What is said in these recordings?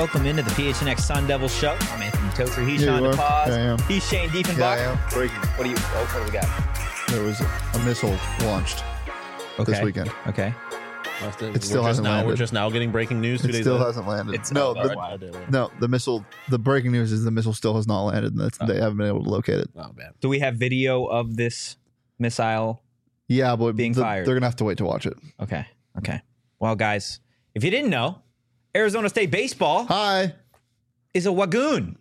welcome into the PHNX Sun Devil Show. I'm Anthony Toker. He's Sean DePaz. He's Shane Diefenbach. What do we got? There was a missile launched this weekend. Okay. It still hasn't landed. We're just now getting breaking news. 2 days still later. hasn't landed. The missile. The breaking news is the missile still has not landed, and they haven't been able to locate it. Oh man. Do we have video of this missile? Yeah, but being fired. They're gonna have to wait to watch it. Okay. Well, guys, if you didn't know, Arizona State baseball is a wagoon.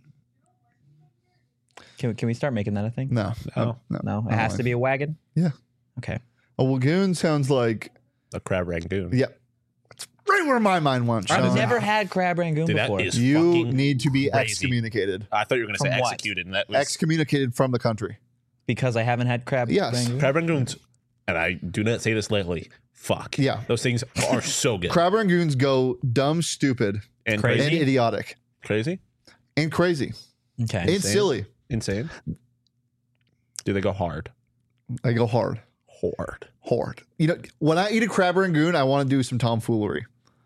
Can we start making that a thing? No. It has to be a wagon. Yeah. Okay. A wagoon sounds like a crab rangoon. Yeah. That's right where my mind went. I've never had crab rangoon before. That is you need to be crazy. Excommunicated. I thought you were going to say From what? executed, and that was Excommunicated from the country. Because I haven't had crab rangoon? crab rangoons. And I do not say this lightly. Fuck. Yeah. Those things are so good. Crab rangoons go dumb, stupid, and crazy. and idiotic. Crazy? And crazy. Okay. And silly. Insane. Do they go hard? They go hard. Hard. You know, when I eat a crab rangoon, I want to do some tomfoolery.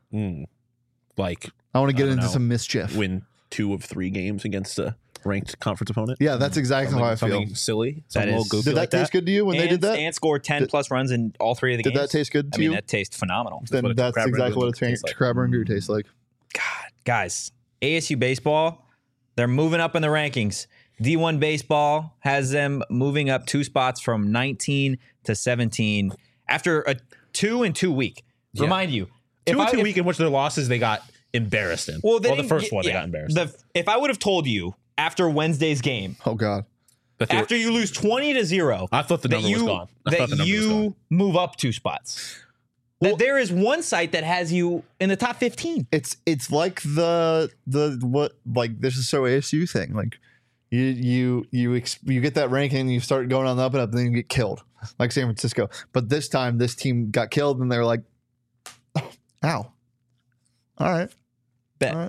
Like, I want to get into some mischief. Win 2 of 3 games against a ranked conference opponent. Yeah, that's exactly how I feel. Something silly. That is- goofy Did that taste good to you when they did that? And scored 10 plus runs in all 3 of the games. Did that taste good to you? That tastes phenomenal. Then that's crab exactly what rangoon tastes a like. crab rangoon tastes like. God, guys, ASU baseball, they're moving up in the rankings. D1 baseball has them moving up 2 spots from 19 to 17 after a 2-2 week. Yeah. Remind you, 2-2 week in which their losses they got embarrassed in. Well, the first one they got embarrassed. If I would have told you after Wednesday's game, Oh God. after you lose 20-0, I thought the number was gone. that you move up 2 spots. That there is one site that has you in the top 15. It's like the this is so ASU thing. Like you get that ranking and you start going on the up and up, and then you get killed like San Francisco. But this time, this team got killed, and they're like, "Ow! All right, Bet. all right."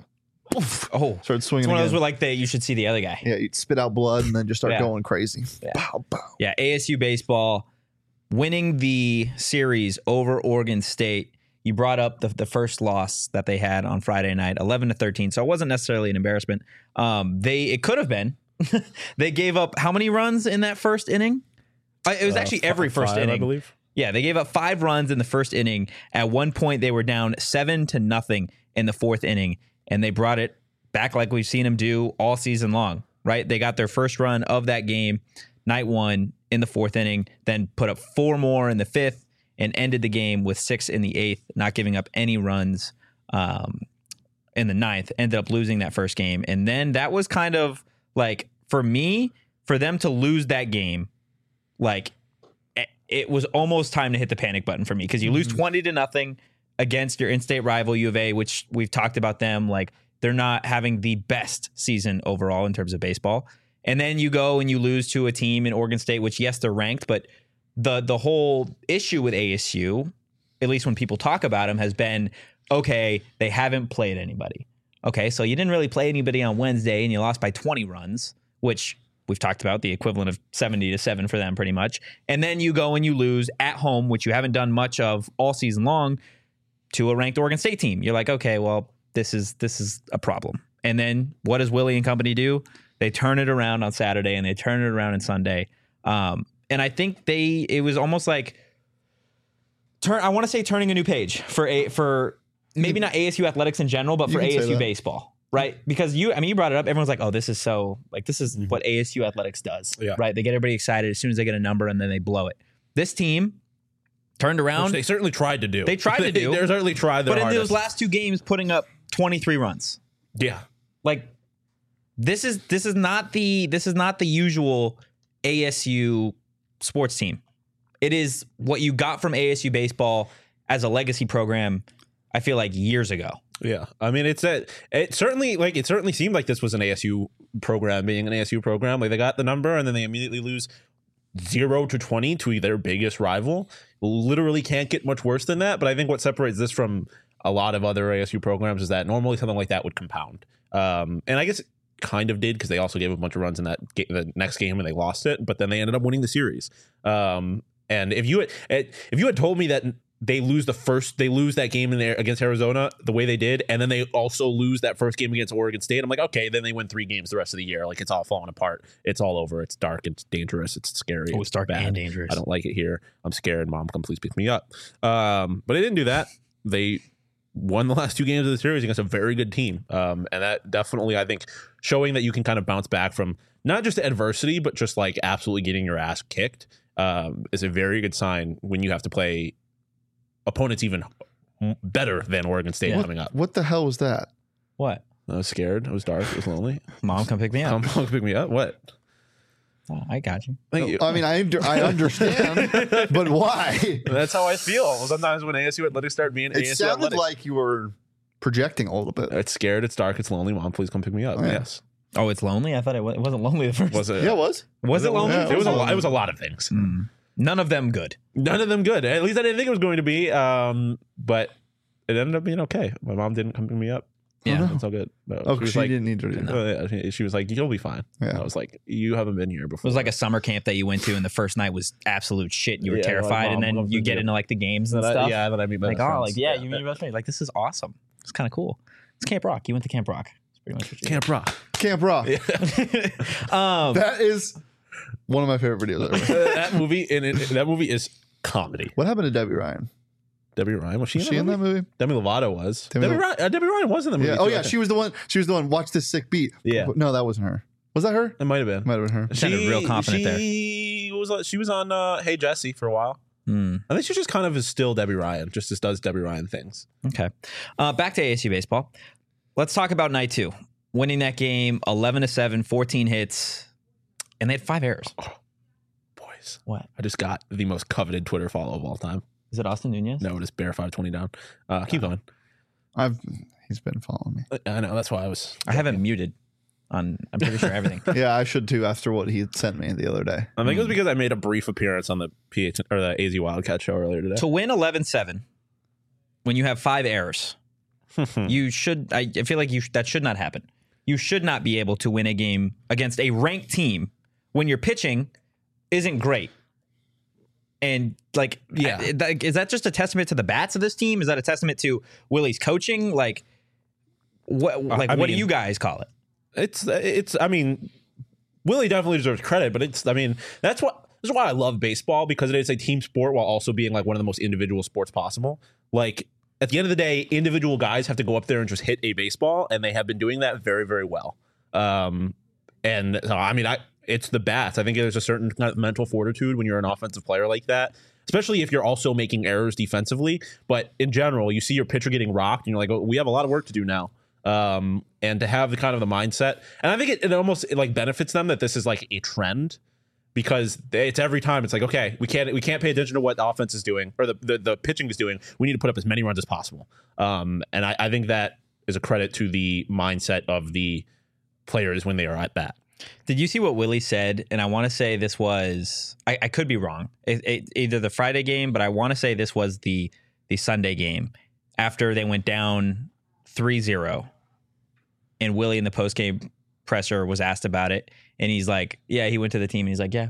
Oh, Started swinging. it's one of those again. where like you should see the other guy. Yeah, you spit out blood and then just start Yeah. going crazy. Yeah. Pow, pow. Yeah, ASU baseball winning the series over Oregon State. You brought up the first loss that they had on Friday night, 11-13. So it wasn't necessarily an embarrassment. It could have been. They gave up how many runs in that first inning? It was actually every first 5, inning. I believe. Yeah, they gave up 5 runs in the first inning. At one point, they were down 7-0 in the 4th inning, and they brought it back like we've seen them do all season long. Right? They got their first run of that game, night 1 in the 4th inning, then put up 4 more in the 5th, and ended the game with 6 in the 8th, not giving up any runs in the 9th. Ended up losing that first game, and then that was kind of like for them to lose that game, like. It was almost time to hit the panic button for me because you lose 20-0 against your in-state rival U of A, which we've talked about them. Like they're not having the best season overall in terms of baseball. And then you go and you lose to a team in Oregon State, which yes, they're ranked, but the whole issue with ASU, at least when people talk about them, has been, okay, they haven't played anybody. Okay, so you didn't really play anybody on Wednesday and you lost by 20 runs, which we've talked about, the equivalent of 70-7 for them pretty much. And then you go and you lose at home, which you haven't done much of all season long, to a ranked Oregon State team. You're like, okay, well, this is a problem. And then what does Willie and company do? They turn it around on Saturday and they turn it around on Sunday. And I think it was almost like I want to say turning a new page for maybe not ASU athletics in general, but for ASU baseball. Right. Because you brought it up. Everyone's like, oh, this is what ASU athletics does. Yeah. Right. They get everybody excited as soon as they get a number and then they blow it. This team turned around. Which they certainly tried to do. They certainly tried their But in hardest. those last 2 games, putting up 23 runs. Yeah. Like this is not the usual ASU sports team. It is what you got from ASU baseball as a legacy program, I feel like years ago. Yeah, I mean, it certainly seemed like this was an ASU program being an ASU program. Like they got the number and then they immediately lose 0-20 to their biggest rival. Literally can't get much worse than that. But I think what separates this from a lot of other ASU programs is that normally something like that would compound. And I guess it kind of did because they also gave a bunch of runs in the next game and they lost it. But then they ended up winning the series. And if you had told me that they lose that game in there against Arizona the way they did, and then they also lose that first game against Oregon State. I'm like, okay, then they win 3 games the rest of the year. Like, it's all falling apart. It's all over. It's dark. It's dangerous. It's scary. Oh, it's dark bad. and dangerous. I don't like it here. I'm scared. Mom, come please pick me up. But they didn't do that. They won the last 2 games of the series against a very good team. And that definitely, I think, showing that you can kind of bounce back from not just adversity, but just like absolutely getting your ass kicked is a very good sign when you have to play opponents even better than Oregon State coming up. What the hell was that? What? I was scared. It was dark. It was lonely. Mom, come pick me up. Come pick me up. What? Oh, I got you. Thank you. I mean, I understand, but why? That's how I feel. Sometimes when ASU athletics start being It ASU sounded athletics, like you were projecting a little bit. it's scared. It's dark. It's lonely. Mom, please come pick me up. Oh, yeah. Yes. Oh, it's lonely? I thought it wasn't lonely the first. Was it? Yeah, it was. Was it lonely? Yeah, It was a lonely. lot. It was a lot of things. None of them good. None of them good. At least I didn't think it was going to be. But it ended up being okay. My mom didn't come pick me up. Yeah. That's all good. No, Oh, she was she like, didn't need to do that. she was like, "You'll be fine." Yeah. I was like, "You haven't been here It before." was like a summer camp that you went to, and the first night was absolute shit. You were Yeah, terrified, like, and Mom, then I'm you gonna get do- into like the games and Then stuff. yeah, then I meet my Like, best oh, friends. like, yeah, you meet your best friend. Like, this is awesome. It's kind of cool. It's Camp Rock. You went to Camp Rock. It's pretty much what you Camp Rock. Camp Rock. did. That is one of my favorite videos ever. That movie that movie is comedy. What happened to Debbie Ryan? Debbie Ryan was she, Was she in that movie? Demi Lovato was. Demi Debbie Ryan was in the movie. Yeah. too, Oh I yeah, think. she was the one. She was the one. Watch this sick beat. Yeah. No, that wasn't her. Was that her? It might have been. Might have been her. Sounded real confident there. She was on Hey Jesse for a while. I think she just kind of is still Debbie Ryan. Just does Debbie Ryan things. Okay. Back to ASU baseball. Let's talk about night 2. Winning that game 11-7, 14 hits, and they had 5 errors. Boys, What? I just got the most coveted Twitter follow of all time. Is it Austin Nunez? No, it is Bear 520 down. Keep going. He's been following me. I know that's why I was. I haven't muted on, I'm pretty sure, everything. Yeah, I should too. After what he sent me the other day. I think it was because I made a brief appearance on the PH or the AZ Wildcat show earlier today. To win 11-7, when you have 5 errors, you should, I feel like that should not happen. You should not be able to win a game against a ranked team when your pitching isn't great. And like, Yeah. is that just a testament to the bats of this team? Is that a testament to Willie's coaching? Like, what? Like, what do mean- you guys call it? It's. I mean, Willie definitely deserves credit, but it's. I mean, this is why I love baseball, because it is a team sport while also being like one of the most individual sports possible. Like, at the end of the day, individual guys have to go up there and just hit a baseball, and they have been doing that very, very well. And so, I mean, it's the bats. I think there's a certain kind of mental fortitude when you're an offensive player like that, especially if you're also making errors defensively. But in general, you see your pitcher getting rocked, and you're like, oh, we have a lot of work to do now. And to have the kind of the mindset, and I think it almost like benefits them that this is like a trend, because it's every time it's like, okay, we can't pay attention to what the offense is doing or the pitching is doing. We need to put up as many runs as possible. And I think that is a credit to the mindset of the players when they are at bat. Did you see what Willie said? And I want to say this was, I could be wrong, either the Friday game, but I want to say this was the Sunday game after they went down 3-0. And Willie in the post-game presser was asked about it. And he's like, yeah, he went to the team and he's like, yeah,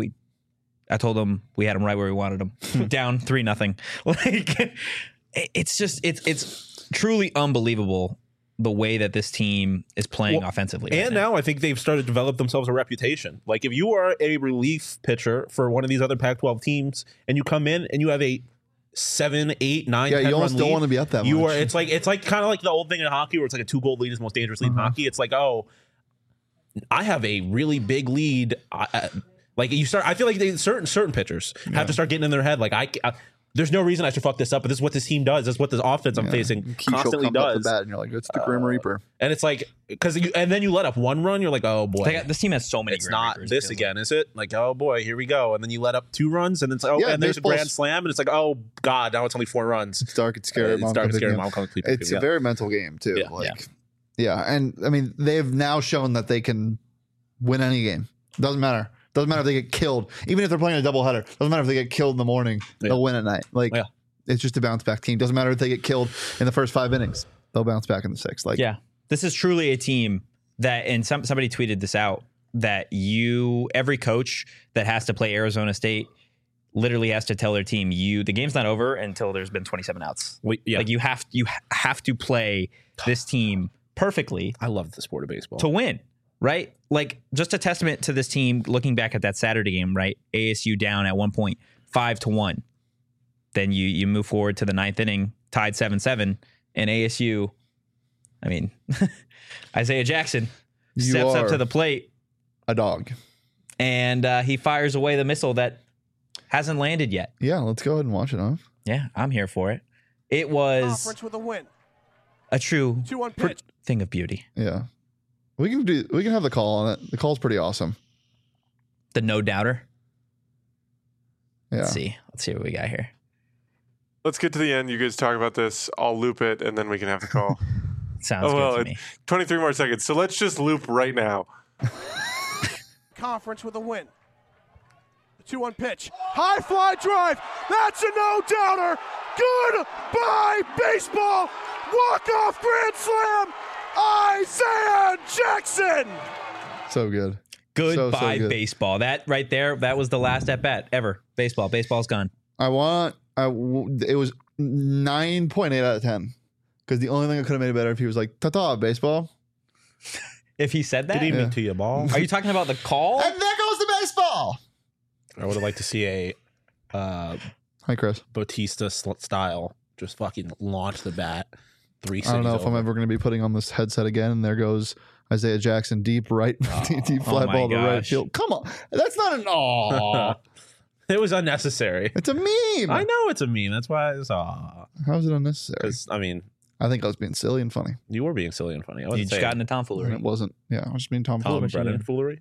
I told him we had him right where we wanted him. Down 3-0. Like, it's just, it's truly unbelievable the way that this team is playing offensively. And now I think they've started to develop themselves a reputation. Like, if you are a relief pitcher for one of these other Pac-12 teams and you come in and you have a 7, 8, 9, Yeah, 10 you almost run don't lead, want to be up that you much. are. It's like kind of like the old thing in hockey where it's like a 2-goal lead is the most dangerous lead in hockey. It's like, oh, I have a really big lead. Like, you start. I feel like certain pitchers have to start getting in their head. Like, there's no reason I should fuck this up, but this is what this team does. This is what this offense I'm facing Keisha constantly comes up the does. bat and you're like, it's the Grim Reaper. And it's like, and then you let up one run, you're like, oh boy. this team has so many. It's Grim not Reapers, this it feels again, is it? Like, oh boy, here we go. And then you let up 2 runs, and then it's like, oh, Yeah, and there's a baseball's- grand slam, and it's like, oh god, now it's only 4 runs. It's dark, it's scary. It's Mom dark, comes it's scary. in. Mom comes sleep. It's a very mental game too. Yeah. Like, yeah, and I mean, they've now shown that they can win any game. Doesn't matter. Doesn't matter if they get killed. Even if they're playing a doubleheader, doesn't matter if they get killed in the morning. They'll win at night. Like, it's just a bounce back team. Doesn't matter if they get killed in the first 5 innings. They'll bounce back in the 6th. Like, yeah, this is truly a team that, and somebody tweeted this out, that every coach that has to play Arizona State literally has to tell their team, the game's not over until there's been 27 outs. Yeah. Like you have to play this team perfectly I love the sport of baseball. to win, right? Like just a testament to this team looking back at that Saturday game, right? ASU down at one point 5-1. Then you move forward to the 9th inning, tied 7-7, and ASU, I mean, Isaiah Jackson You steps up are to the plate a dog. and he fires away the missile that hasn't landed yet. Yeah, let's go ahead and watch it, huh? Yeah, I'm here for it. It was Conference with a win. a true 2-1 pitch. thing of beauty. Yeah. We can have the call on it. The call's pretty awesome. The no doubter. Yeah. Let's see what we got here. Let's get to the end. You guys talk about this. I'll loop it, and then we can have the call. Sounds good to me. 23 more seconds. So let's just loop right now. Conference with a win. The 2-1 pitch. High fly drive. That's a no-doubter. Goodbye, baseball. Walk-off grand slam. Isaiah Jackson. So good. Goodbye, good. baseball. That right there, that was the last at bat ever. Baseball. Baseball's gone. It was 9.8 out of 10. Because the only thing that could have made it better if he was like, ta-ta, baseball. If he said that, Good evening to you, ball. are you talking about the call? And there goes the baseball. I would have liked to see a Hi, Chris. Bautista style just fucking launch the bat. I don't know if I'm over. ever going to be putting on this headset again. And there goes Isaiah Jackson deep right, deep fly my ball to right gosh. field. Come on. That's not an aw. It was unnecessary. It's a meme. I know it's a meme. That's why it's How is it unnecessary? because I mean I think I was being silly and funny. you were being silly and funny. I You wasn't just got saying into And tomfoolery. it wasn't. Yeah, I was just being Tom Tom Fuller. Brennan foolery.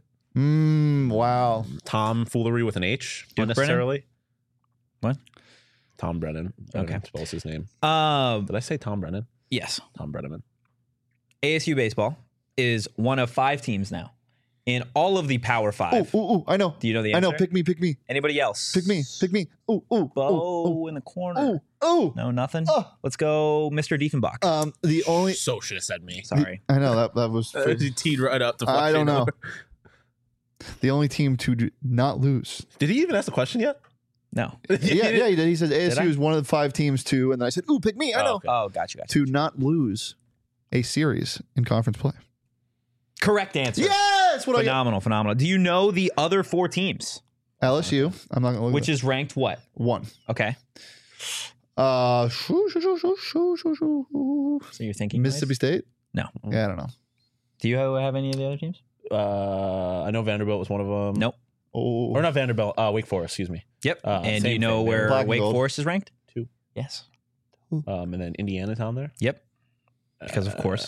Wow. Tom foolery with an H Duke unnecessarily. What? Tom Brennan. I don't Okay. know how to spell his name. Did I say Tom Brennan? Yes. Tom Brennan. ASU baseball is one of 5 teams now in all of the Power 5. Ooh, I know. Do you know the I answer? know. Pick me. Anybody else? Pick me. Ooh. Bo in the corner. Ooh. No, nothing. Oh. Let's go, Mr. Diefenbach. The only. So should have said me. Sorry. I know that was. He teed right up to I don't fucking know. over. The only team to not lose. Did he even ask the question yet? No. Yeah, he did. He said I? ASU is one of the 5 teams to, and then I said, ooh, pick me. I know. okay. Oh, gotcha. To not lose a series in conference play. Correct answer. Yes! What I get? Phenomenal. Do you know the other 4 teams? LSU. I'm not going to look Which at is ranked what? 1. Okay. So So you're thinking Mississippi State? No. Yeah, I don't know. Do you have any of the other teams? I know Vanderbilt was one of them. Nope. Oh, Or not Vanderbilt. Wake Forest. Excuse me. Yep. And do same you know thing. where Black and Wake gold. Forest is ranked? 2. Yes. And then Indiana's on there. Yep. Because of course.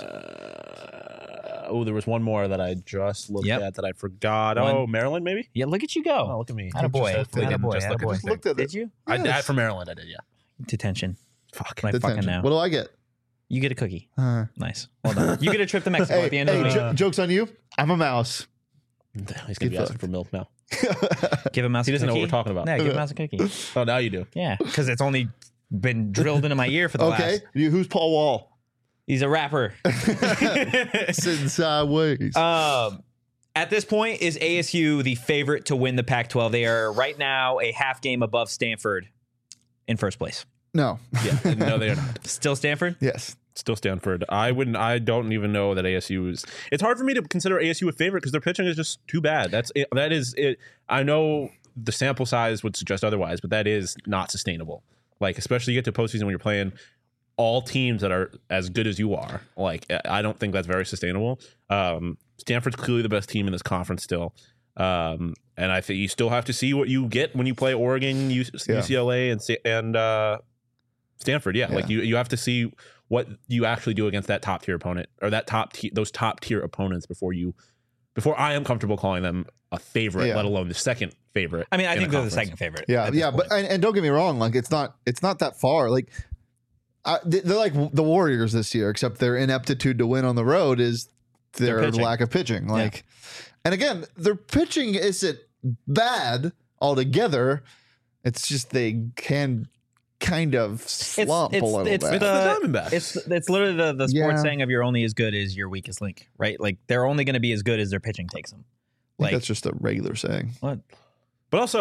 There was one more that I just looked Yep. at that I forgot. One. Oh, Maryland, maybe. Yeah, look at you Oh, go. look at me. Attaboy. Just Attaboy. just look at Attaboy. this thing. looked at Did you? I for Maryland. I did. Yeah. Detention. Fuck. Like fucking Detention. now. What do I get? You get a cookie. Uh, Nice. Well done. You get a trip to Mexico at the end of the week. joke's on you. I'm a mouse. He's gonna be asking for milk now. Give him mouse He a doesn't know cookie. what we're talking about. Yeah, give him mouse a cookie. Oh, now you do. Yeah, because it's only been drilled into my ear for the Okay. last. Who's Paul Wall? He's a rapper. Sitting sideways. At this point, is ASU the favorite to win the Pac-12? They are right now a half game above Stanford in first place. No. Yeah. No, they are not. Still Stanford? Yes. Still Stanford. I don't even know that ASU is. It's hard for me to consider ASU a favorite because their pitching is just too bad. That is it. I know the sample size would suggest otherwise, but that is not sustainable. Like, especially you get to postseason when you're playing all teams that are as good as you are. Like, I don't think that's very sustainable. Stanford's clearly the best team in this conference still. And I think you still have to see what you get when you play Oregon, UCLA, and Stanford. Yeah, like you have to see what you actually do against that top tier opponent or that those top tier opponents before I am comfortable calling them a favorite, let alone the second favorite. I mean, I in think a they're the conference. second favorite. Yeah. at this Yeah. point. But and don't get me wrong. Like it's not that far. Like they're like the Warriors this year, except their ineptitude to win on the road is their pitching. lack of pitching. Like, and again, their pitching isn't bad altogether. It's just they can kind of slump a little bit. the Diamondbacks. It's literally the sports Yeah. saying of you're only as good as your weakest link, right? Like they're only going to be as good as their pitching takes them. I think Like that's just a regular saying. what? But also,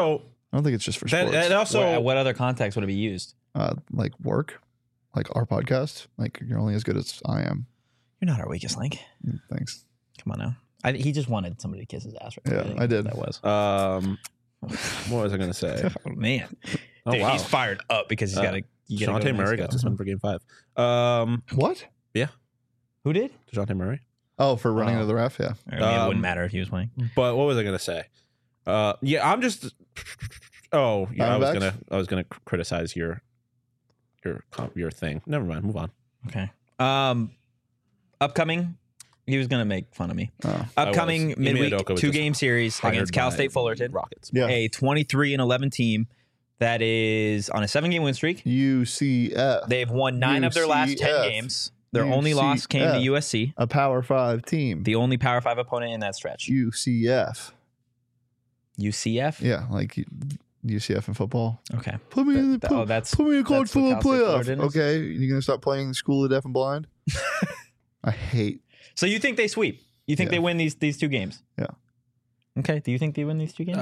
I don't think it's just for That, sports. and also, what other context would it be used? Like work, like our podcast. Like you're only as good as I am. You're not our weakest link. Thanks. Come on now. He just wanted somebody to kiss his ass. Right? Yeah, I did. That was. what was I going to say? Oh, man. Oh, Dude, wow. he's fired up because he's got to. DeJounte Murray got suspended for game 5. What? Who did? DeJounte Murray. Oh, for running Oh. into the ref. Yeah. I mean, it wouldn't matter if he was playing. But what was I going to say? I'm just. Oh, yeah. I was gonna criticize your thing. Never mind. Move on. Okay. Upcoming. He was going to make fun of me. Oh. Upcoming Ime midweek Udoka was 2-game series hired against Cal by State Fullerton. Rockets. Yeah. A 23-11 team that is on a 7-game win streak. UCF. They've won 9 of their last 10 UCF. games. Their only loss came to USC, A Power 5 team. the only Power 5 opponent in that stretch. UCF. UCF? Yeah, like UCF in football. Okay. Put me in the that's put me in a college that's what football Cal State playoff. Fullerton is? Okay, you gonna stop playing School of the Deaf and Blind? I hate. So you think they sweep? You think Yeah. they win these 2 games? Yeah. Okay. Do you think they win these 2 games?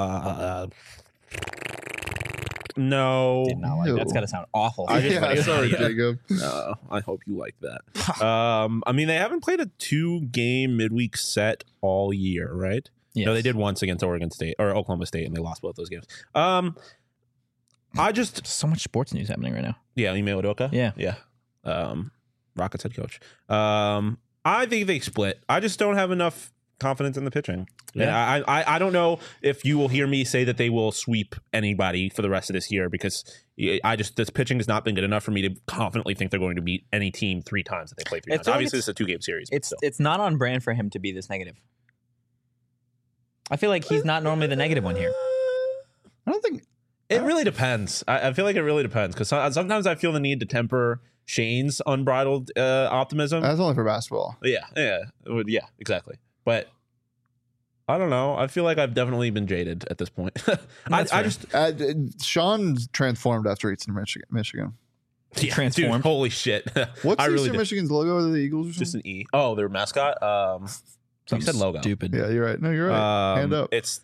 No. Did not like No. that's got to sound awful. I just- Yeah, sorry, Yeah. Jacob. I hope you like that. I mean, they haven't played a 2-game midweek set all year, right? Yes. No, they did once against Oregon State or Oklahoma State, and they lost both those games. I just So much sports news happening right now. Ime Udoka. Yeah. Rockets head coach. I think they split. I just don't have enough confidence in the pitching. Yeah. And I don't know if you will hear me say that they will sweep anybody for the rest of this year because this pitching has not been good enough for me to confidently think they're going to beat any team 3 times that they play 3 I times. feel like Obviously, it's a 2-game series. but still. It's not on brand for him to be this negative. I feel like he's not normally the negative one here. I don't think. It really depends. I feel like it really depends because sometimes I feel the need to temper Shane's unbridled optimism. That's only for basketball. Yeah, exactly. But I don't know. I feel like I've definitely been jaded at this point. I fair. just Sean's transformed after Eastern Michigan. yeah, Transformed. Dude, holy shit! What's I really Eastern did. Michigan's logo? Are they the Eagles or something? Just an E. Oh, their mascot. You said logo. Stupid. Yeah, you're right. No, you're right. Hand up. It's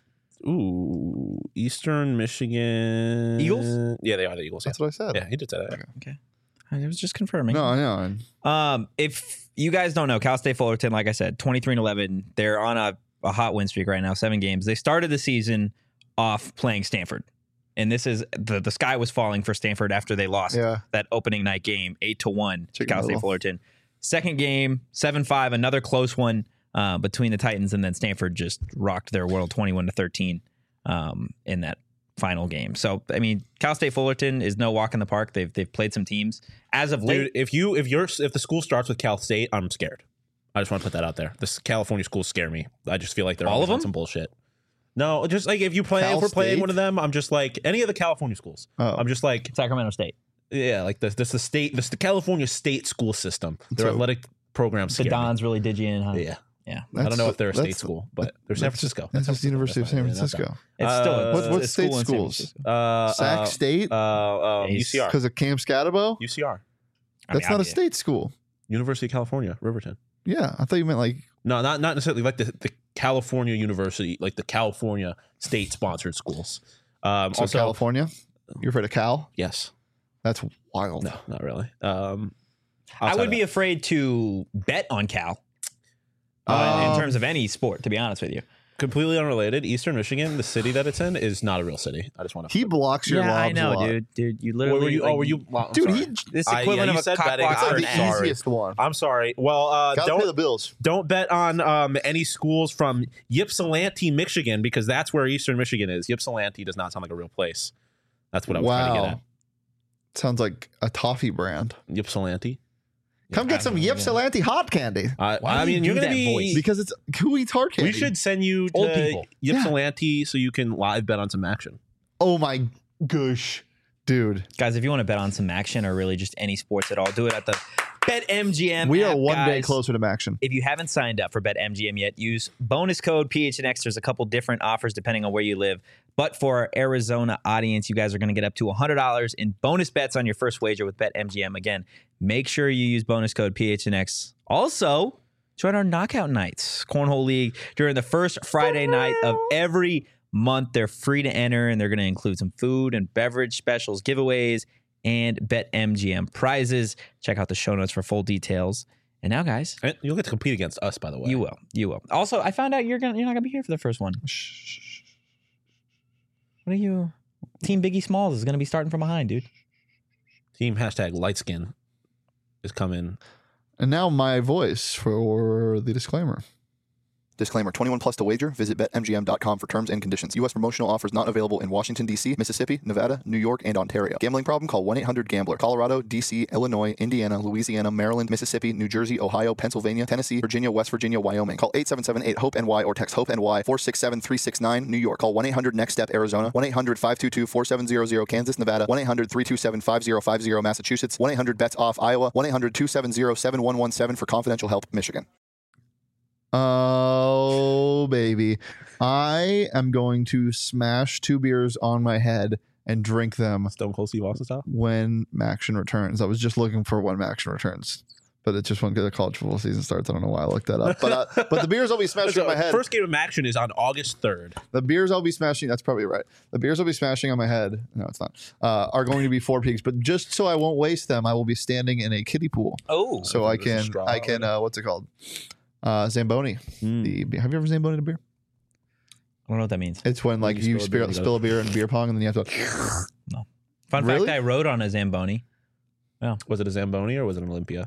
Eastern Michigan Eagles? Yeah, they are the Eagles. That's what I said. Yeah, he did say that. Okay. I was just confirming. No, I know. If you guys don't know, Cal State Fullerton, like I said, 23-11. They're on a hot win streak right now, 7 games. They started the season off playing Stanford. And this is the sky was falling for Stanford after they lost Yeah. that opening night game 8-1 to Chicken Cal State Little. Fullerton. Second game 7-5, another close one between the Titans, and then Stanford just rocked their world 21-13 in that final game. So I mean, Cal State Fullerton is no walk in the park. They've played some teams as of late. Dude, if the school starts with Cal State, I'm scared. I just want to put that out there. This California schools scare me. I just feel like they're All always of on them? some bullshit. No, just like if we're playing State? one of them, I'm just like any of the California schools. Oh. I'm just like Sacramento State, like the California state school system. Their So- athletic programs. the scare me. Dons really did you in, huh? Yeah. Yeah. I don't know if they're a state That's- school, but they're San Francisco. That's just the University of San Francisco. It's still a, What it's a state school in San schools? Francisco. Sac State? UCR. Because of Cam Scatabo? UCR. I mean, That's not a obviously. state school. University of California, Riverton. Yeah, I thought you meant like. No, not necessarily like the California University, like the California state sponsored schools. So Also, California? You're afraid of Cal? yes. That's wild. No, not really. I would be afraid to bet on Cal in terms of any sport, to be honest with you. completely unrelated. Eastern Michigan, the city that it's in, is not a real city. I just want to. He blocks your Yeah, lobs I a know, lot. dude. You literally. Were you? like, Were you? Well, I'm Dude, sorry. he This I- equivalent yeah, you of a said cock betting. block it's I'm for like an the ad. sorry. easiest one. I'm sorry. Well, Gotta pay the don't bills. bet on any schools from Ypsilanti, Michigan, because that's where Eastern Michigan is. Ypsilanti does not sound like a real place. That's what I was trying to get Wow. Sounds like a toffee brand. at. Ypsilanti. Come get some Ypsilanti hot candy. Why I do you mean, do you're gonna that be. voice? Because it's who eats hard candy? We should send you Old to people. Ypsilanti so you can live bet on some action. Oh my gosh, dude. Guys, if you want to bet on some action or really just any sports at all, do it at the BetMGM We app, are one day guys. closer to action. If you haven't signed up for BetMGM yet, use bonus code PHNX. There's a couple different offers depending on where you live. But for our Arizona audience, you guys are going to get up to $100 in bonus bets on your first wager with BetMGM. Again, make sure you use bonus code PHNX. Also, join our knockout nights, Cornhole League, during the first Friday night of every month. They're free to enter, and they're going to include some food and beverage specials, giveaways, and BetMGM prizes. Check out the show notes for full details. And now, guys, And you'll get to compete against us, by the way. you will. Also, I found out you're not gonna be here for the first one. What are you? Team Biggie Smalls is gonna be starting from behind, dude. Team #lightskin is coming. And now my voice for the disclaimer. Disclaimer, 21 plus to wager. Visit BetMGM.com for terms and conditions. U.S. promotional offers not available in Washington, D.C., Mississippi, Nevada, New York, and Ontario. Gambling problem? Call 1-800-GAMBLER. Colorado, D.C., Illinois, Indiana, Louisiana, Maryland, Mississippi, New Jersey, Ohio, Pennsylvania, Tennessee, Virginia, West Virginia, Wyoming. Call 877-8-HOPE-NY or text HOPE-NY 467-369, New York. Call 1-800-NEXT-STEP, Arizona. 1-800-522-4700, Kansas, Nevada. 1-800-327-5050, Massachusetts. 1-800-BETS-OFF, Iowa. 1-800-270-7117 for confidential help, Michigan. Oh, baby. I am going to smash 2 beers on my head and drink them Stone Cold Steve Austin style. when Maction returns. I was just looking for when Maction returns, but it just won't get the college football season starts. I don't know why I looked that up. But the beers I'll be smashing on my head. First game of action is on August 3rd. The beers I'll be smashing, that's probably right. The beers I'll be smashing on my head, no, it's not, are going to be Four Peaks. But just so I won't waste them, I will be standing in a kiddie pool. Oh, So I there's a can, straw what's it called? Zamboni. Have you ever Zamboni a beer? I don't know what that means. It's when like you spill a beer in beer pong and then you have to. No. Fun Really? fact: I rode on a Zamboni. Was it a Zamboni or was it an Olympia?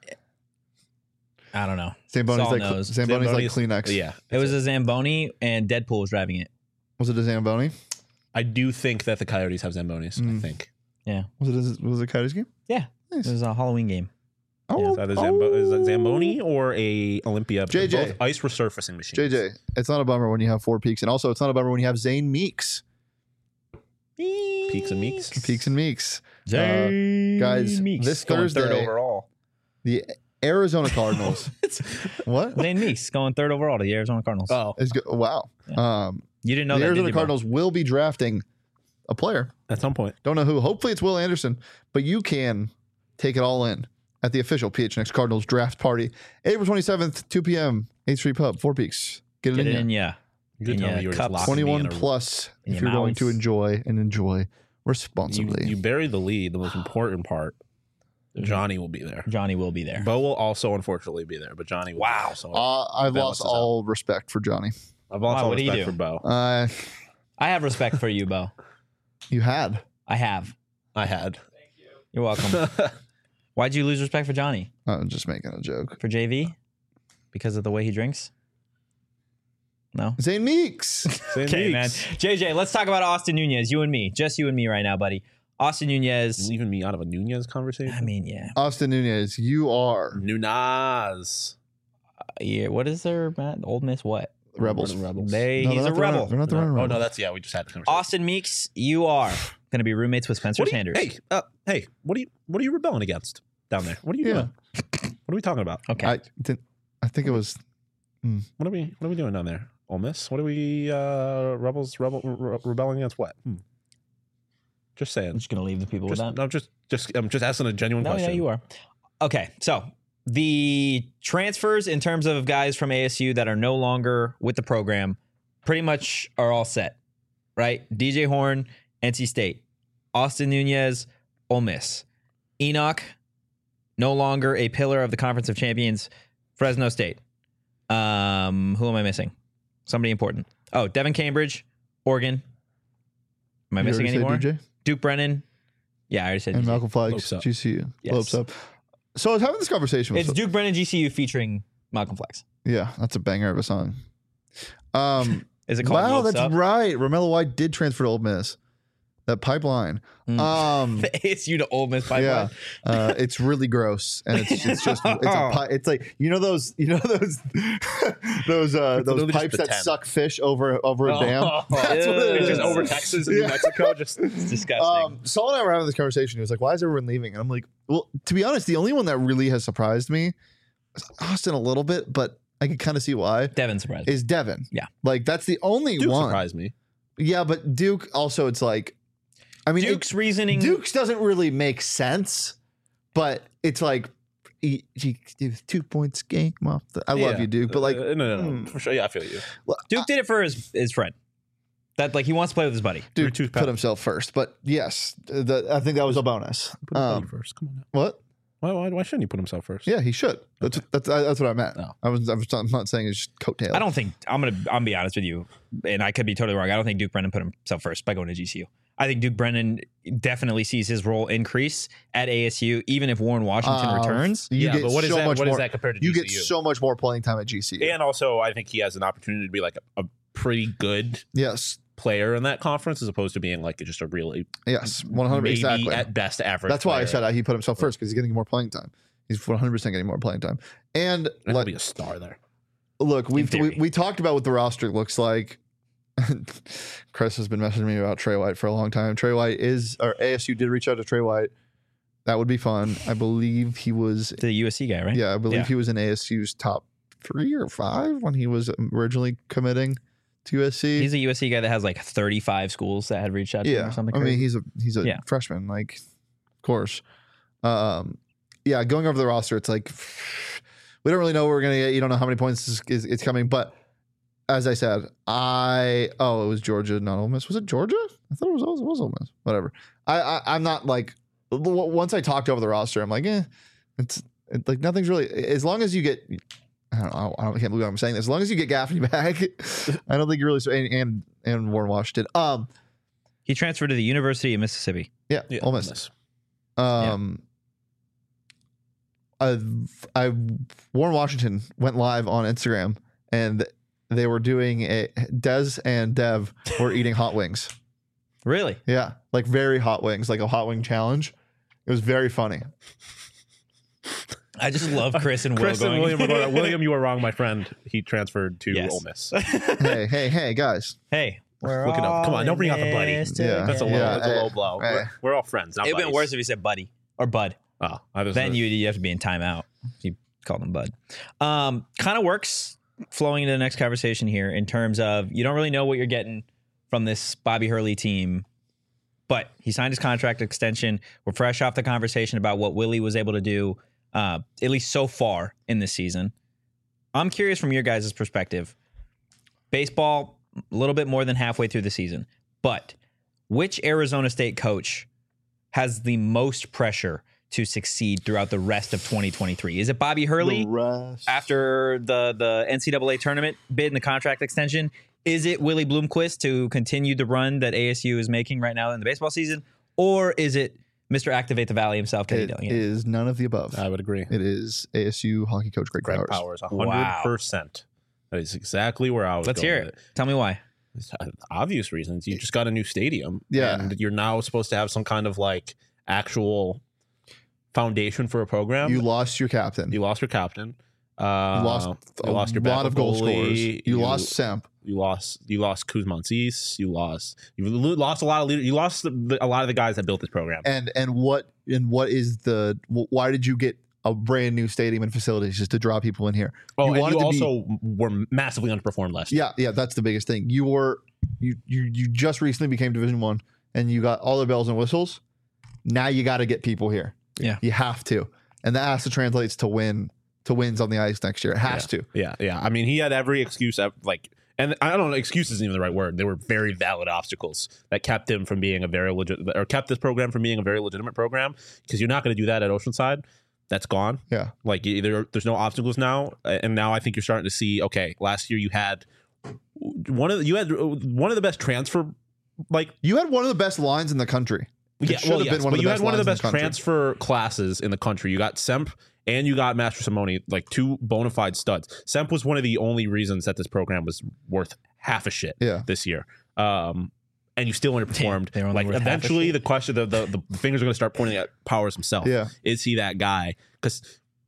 I don't know. Zamboni's Saul like knows. Zamboni's like Kleenex. Yeah. It was a Zamboni, and Deadpool was driving it. Was it a Zamboni? I do think that the Coyotes have Zambonis. I think. Yeah, Was it a Coyotes game? yeah. Nice. It was a Halloween game. Oh, Is that is that Zamboni or a Olympia? JJ. Both ice resurfacing machines. JJ, it's not a bummer when you have Four Peaks, and also it's not a bummer when you have Zane Meeks. Peaks and Meeks. Peaks and Meeks. Guys, this going third Thursday, overall. the Arizona Cardinals. What? Zane Meeks going third overall to the Arizona Cardinals. Oh, Wow. You didn't know The that, Arizona did you, Bo? Cardinals will be drafting a player. at some point. Don't know who. Hopefully it's Will Anderson, but you can take it all in at the official PHNX Cardinals draft party, April 27th, 2 p.m., 8th Street Pub, Four Peaks. Get it Get it in in, ya. yeah. You could In tell your me you were just cups. locking me 21 in a- plus in if your you're going to mouths. enjoy responsibly. You bury the lead, the most important part. Johnny will be there. Johnny will be there. Bo will also unfortunately be there, but Johnny will be there. So I've balance lost us out. all respect for Johnny. I've lost Wow, all what do you respect do? for Bo. I have respect for you, Bo. You had. I have. I had. You're welcome. Why'd you lose respect for Johnny? I'm just making a joke. For JV? Because of the way he drinks? No? Zane Meeks. Same Okay, man. weeks. JJ, let's talk about Austin Nunez. You and me. Just you and me right now, buddy. Austin Nunez. Leaving me out of a Nunez conversation. I mean, yeah. Austin Nunez, you are Nunez. Yeah. What is there, Matt? Old Miss what? Rebels. Rebels. No, He's they're a not the rebel. Rebels. They're not the No. Rebels. Oh no, that's we just had this conversation. Austin Meeks, you are going to be roommates with Spencer What are you- Sanders. hey, what are you rebelling against down there? What are you Yeah. doing? What are we talking about? Okay. I think it was. What are we doing down there? Ole Miss? What are we rebelling against? What? Just saying. I'm just going to leave the people with that. I'm just asking a genuine No, question. you are. Okay, so the transfers in terms of guys from ASU that are no longer with the program pretty much are all set, right? DJ Horn, NC State. Austin Nunez, Ole Miss. Enoch, no longer a pillar of the Conference of Champions, Fresno State. Who am I missing? Somebody important. Oh, Devin Cambridge, Oregon. Am I You missing already any said more? DJ? Duke Brennan. Yeah, I already said And DJ. Malcolm Flags, Lopes up. GCU. Yes. Lopes up. So I was having this conversation with It's Duke Brennan GCU featuring Malcolm Flex. Yeah, that's a banger of a song. Is it called Wow, Lopes that's Up? right. Romello White did transfer to Ole Miss. That pipeline. The ASU to Ole Miss pipeline. Yeah, it's really gross, and it's like those literally just pipes that pretend. suck fish over a dam. That's what it It's is. just over Texas and New Yeah. Mexico. Just It's disgusting. Saul and I were having this conversation. He was like, "Why is everyone leaving?" And I'm like, "Well, to be honest, the only one that really has surprised me is Austin a little bit, but I could kind of see why." Devin surprised me. Is Devin? Yeah. like that's the only Duke one. surprised me. Yeah, but Duke also, it's like, I mean, Duke's reasoning. Duke's doesn't really make sense, but it's like he 2 points game off. I love Yeah. you, Duke, but like, no, for sure. Yeah, I feel you. Duke did it for his friend. That like he wants to play with his buddy. Dude tooth put powder. himself first, but yes, I think that was a bonus. Put his buddy first. Come on. Now. What? Why shouldn't you put himself first? Yeah, he should. That's what I meant. Oh. I'm not saying it's just coattail. I don't think I'm gonna be honest with you, and I could be totally wrong. I don't think Duke Brennan put himself first by going to GCU. I think Duke Brennan definitely sees his role increase at ASU, even if Warren Washington returns. You get but what is so that? much What is more- that compared to You GCU? get so much more playing time at GCU. And also, I think he has an opportunity to be like a pretty good Yes, player in that conference, as opposed to being like just a really yes, 100%. maybe Exactly. at best average. That's why I player. said he put himself first because he's getting more playing time. He's 100% getting more playing time. And he'll like, be a star there. look, we theory. we talked about what the roster looks like. Chris has been messaging me about Trey White for a long time. Trey White ASU did reach out to Trey White. That would be fun. I believe he was, The USC guy, right? yeah, I believe Yeah. he was in ASU's top 3 or 5 when he was originally committing to USC. He's a USC guy that has like 35 schools that had reached out to him Yeah, or something. I mean crazy. he's a Yeah. freshman, like of course. Yeah, going over the roster, it's like we don't really know what we're gonna get. You don't know how many points is coming, but as I said, it was Georgia, not Ole Miss. Was it Georgia? I thought it was Ole Miss. Whatever. I'm not like once I talked over the roster, I'm like, it's like nothing's really as long as you get. I can't believe I'm saying this. As long as you get Gaffney back, I don't think you're really and Warren Washington. He transferred to the University of Mississippi. Yeah, Yeah, Ole Miss. Warren Washington went live on Instagram and they were doing Des and Dev were eating hot wings. Really? Yeah, like very hot wings, like a hot wing challenge. It was very funny. I just love Chris and Will Chris and going. William were going, William, you were wrong, my friend. He transferred to Yes. Ole Miss. hey, guys. Hey, we're Look it up. Come on, don't bring out the buddy. Yeah. That's a low, Yeah, that's a low blow. hey. We're all friends. Not It'd been buddies. worse if you said buddy or bud. Oh, I was Then you have to be in timeout. You called him bud. Kind of works flowing into the next conversation here in terms of you don't really know what you're getting from this Bobby Hurley team, but he signed his contract extension. We're fresh off the conversation about what Willie was able to do, at least so far in this season. I'm curious from your guys' perspective. Baseball, a little bit more than halfway through the season, but which Arizona State coach has the most pressure to succeed throughout the rest of 2023? Is it Bobby Hurley after the NCAA tournament bid and the contract extension? Is it Willie Bloomquist to continue the run that ASU is making right now in the baseball season? Or is it Mr. Activate the Valley himself, Kenny It Dillingham? is none of the above. I would agree. It is ASU hockey coach Greg Greg Powers. Powers, Wow. 100%. That is exactly where I was Let's going hear with it. Tell me why. It's obvious reasons. You just got a new stadium. Yeah. And you're now supposed to have some kind of like actual foundation for a program. You lost your captain. You lost your captain. You lost you lost your lot of goal goalie. scorers. You lost Semp. You lost Kuzmantzis. You lost a lot of leaders. You lost a lot of the guys that built this program. And what is the why did you get a brand new stadium and facilities just to draw people in here? Oh, and wanted you to be- also were massively underperformed last year. Yeah, that's the biggest thing. You just recently became Division 1 and you got all the bells and whistles. Now you got to get people here. Yeah. You have to. And that has to translate to wins on the ice next year. It has to. Yeah. I mean, he had every excuse, and I don't know, excuse isn't even the right word. They were very valid obstacles that kept him from being kept this program from being a very legitimate program, because you're not going to do that at Oceanside. That's gone. Yeah. Like there's no obstacles now, and now I think you're starting to see. Okay, last year you had one of the best transfer. Like You had one of the best lines in the country. It should have been one of the you best had one of the lines in best country. transfer classes in the country. You got Semp and you got Master Simone, like two bona fide studs. Semp was one of the only reasons that this program was worth half a shit this year. And you still underperformed. They were only Like worth half a eventually, shit. the question, the fingers are going to start pointing at Powers himself. Yeah. Is he that guy? Because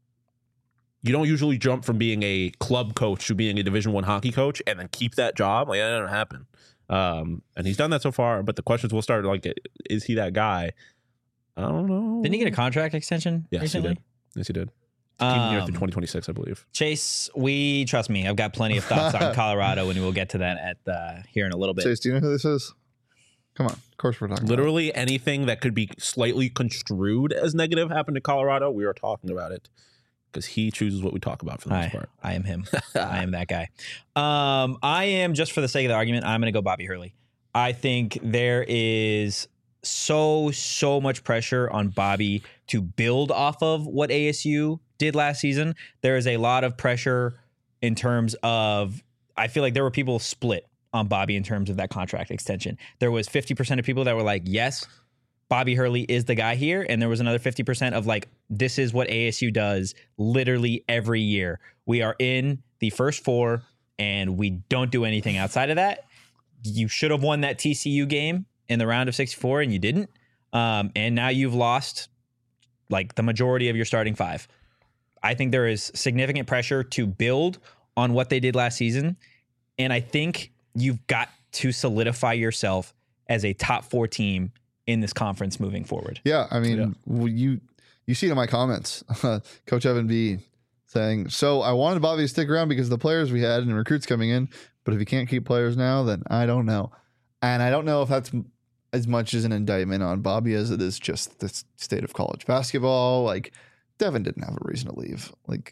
you don't usually jump from being a club coach to being a Division I hockey coach and then keep that job. Like that doesn't happen. And he's done that so far. But the questions will start like, is he that guy? I don't know. Didn't he get a contract extension Yes, recently? he did. Yes, he did. Keep him here through 2026, I believe. Chase, trust me, I've got plenty of thoughts on Colorado, and we'll get to that here in a little bit. Chase, do you know who this is? Come on. Of course we're talking about Literally anything that could be slightly construed as negative happened to Colorado. We are talking about it because he chooses what we talk about for the most part. I am him. I am that guy. I am, just for the sake of the argument, I'm going to go Bobby Hurley. I think there is so much pressure on Bobby to build off of what ASU did last season. There is a lot of pressure in terms of, I feel like there were people split on Bobby in terms of that contract extension. There was 50% of people that were like, yes, Bobby Hurley is the guy here. And there was another 50% of like, this is what ASU does literally every year. We are in the first four and we don't do anything outside of that. You should have won that TCU game in the round of 64 and you didn't. And now you've lost like the majority of your starting five. I think there is significant pressure to build on what they did last season. And I think you've got to solidify yourself as a top 4 team in this conference moving forward. Yeah, I mean, you see it in my comments. Coach Evan B saying, so I wanted Bobby to stick around because of the players we had and recruits coming in, but if you can't keep players now, then I don't know. And I don't know if that's as much as an indictment on Bobby as it is just the state of college basketball. Like, Devin didn't have a reason to leave. Like,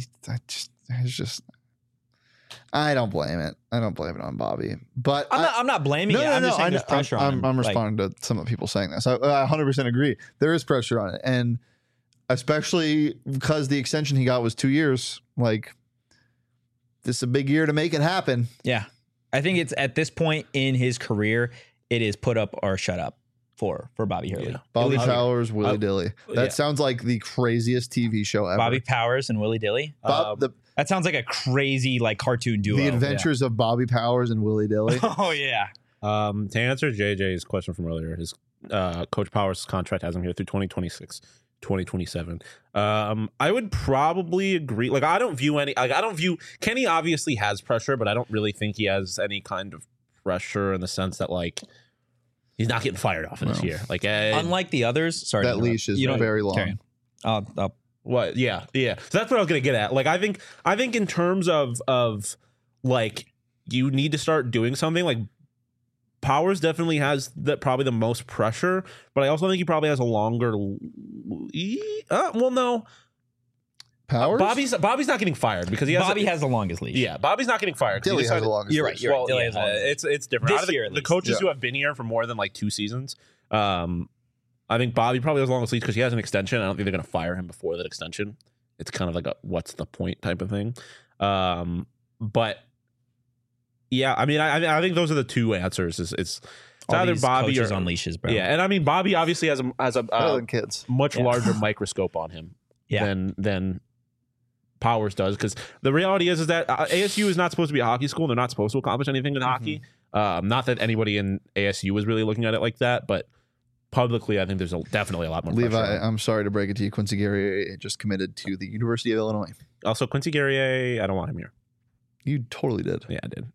I don't blame it. I don't blame it on Bobby. But I'm not blaming it. I'm just saying there's pressure on him. I'm responding to some of the people saying this. I 100% agree. There is pressure on it. And especially because the extension he got was 2 years. Like, this is a big year to make it happen. Yeah. I think it's at this point in his career, it is put up or shut up for Bobby Hurley. Yeah. Bobby Powers, Willie Dilly. That sounds like the craziest TV show ever. Bobby Powers and Willie Dilly. That sounds like a crazy like cartoon duo. The Adventures of Bobby Powers and Willie Dilly. Oh yeah. To answer JJ's question from earlier, his Coach Powers' contract has him here through 2026, 2027. I would probably agree. Like, I don't view Kenny obviously has pressure, but I don't really think he has any kind of pressure in the sense that like he's not getting fired off in this year. Like, unlike the others, sorry, that leash is very long. What? Yeah. So that's what I was gonna get at. Like, I think in terms of like, you need to start doing something. Like, Powers definitely has probably the most pressure, but I also think he probably has a longer. Well, no. Powers. Bobby's not getting fired because Bobby has the longest leash. Yeah, Bobby's not getting fired. Dilly has the longest. You're right. Well, Dilly has the longest. It's different. This Out of year, at the least. coaches who have been here for more than like 2 seasons, I think Bobby probably has the longest leash because he has an extension. I don't think they're going to fire him before that extension. It's kind of like a what's the point type of thing. But yeah, I mean, I think those are the two answers. It's either Bobby or on leashes, bro. Yeah, and I mean, Bobby obviously has a kids. much larger microscope on him than Powers does, because the reality is that ASU is not supposed to be a hockey school. They're not supposed to accomplish anything in hockey. Not that anybody in ASU was really looking at it like that, but publicly, I think there's definitely a lot more Levi, pressure. I'm sorry to break it to you. Quincy Guerrier just committed to the University of Illinois. Also, Quincy Guerrier, I don't want him here. You totally did. Yeah, I did.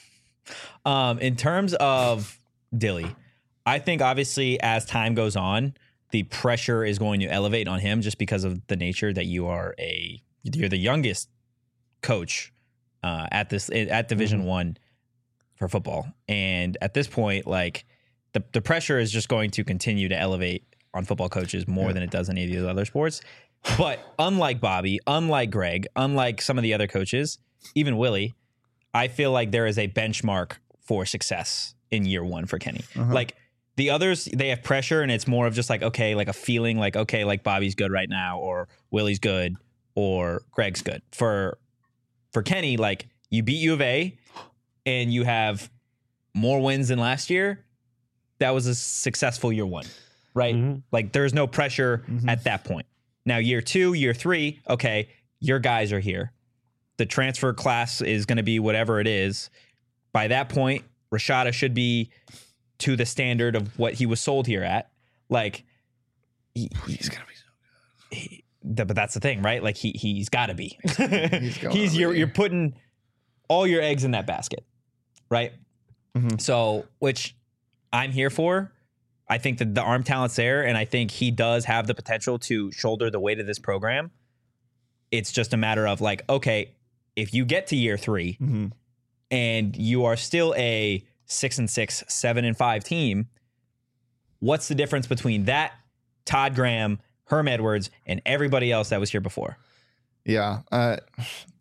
In terms of Dilly, I think obviously as time goes on, the pressure is going to elevate on him just because of the nature that you're the youngest coach at Division I for football, and at this point, like the pressure is just going to continue to elevate on football coaches more than it does in any of the other sports. But unlike Bobby, unlike Greg, unlike some of the other coaches, even Willie, I feel like there is a benchmark for success in year one for Kenny. Like the others, they have pressure and it's more of just like, okay, like a feeling like, okay, like Bobby's good right now, or Willie's good, or Greg's good. For Kenny, like you beat U of A and you have more wins than last year. That was a successful year one, right? Like there's no pressure at that point. Now year 2, year 3, okay, your guys are here. The transfer class is going to be whatever it is. By that point, Rashada should be to the standard of what he was sold here at. Like he's going to be so good. But that's the thing, right? Like he's got to be. You're putting all your eggs in that basket, right? So, which I'm here for. I think that the arm talent's there, and I think he does have the potential to shoulder the weight of this program. It's just a matter of like, okay, if you get to year 3 and you are still a 6-6, 7-5 team, what's the difference between that, Todd Graham, Herm Edwards, and everybody else that was here before? Yeah.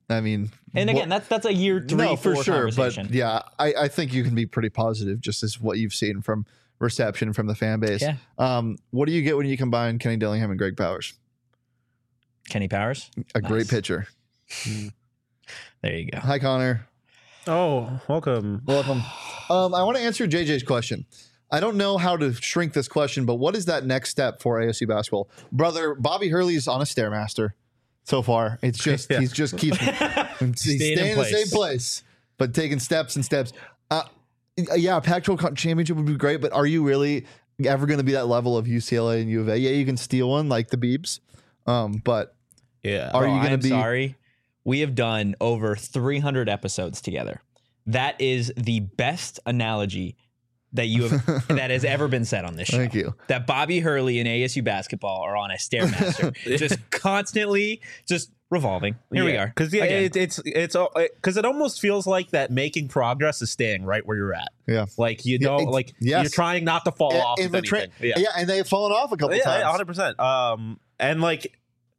I mean, And again, that's a year 3, no, 4 for sure. But conversation. yeah, I think you can be pretty positive just as what you've seen from reception from the fan base. Yeah. What do you get when you combine Kenny Dillingham and Greg Powers? Kenny Powers, A Nice. great pitcher. There you go. Hi, Connor. Oh, welcome. Welcome. I want to answer JJ's question. I don't know how to shrink this question, but what is that next step for ASU basketball? Brother, Bobby Hurley's on a Stairmaster so far. It's just, Yeah. he's just keeps, he's staying in the same place, but taking steps and steps. Yeah, Pac-12 championship would be great, but are you really ever going to be that level of UCLA and U of A? Yeah, you can steal one like the Beebs, but Yeah. are you going to I'm be? sorry. We have done over 300 episodes together. That is the best analogy that you have that has ever been said on this show. Thank you. That Bobby Hurley and ASU basketball are on a stairmaster, just constantly just revolving. Here we are. Because Again. it's because it almost feels like that making progress is staying right where you're at. Yeah. Like you Yeah, don't like yes. you're trying not to fall off. In with the anything. yeah, and they've fallen off a couple Yeah, times. 100%. And like,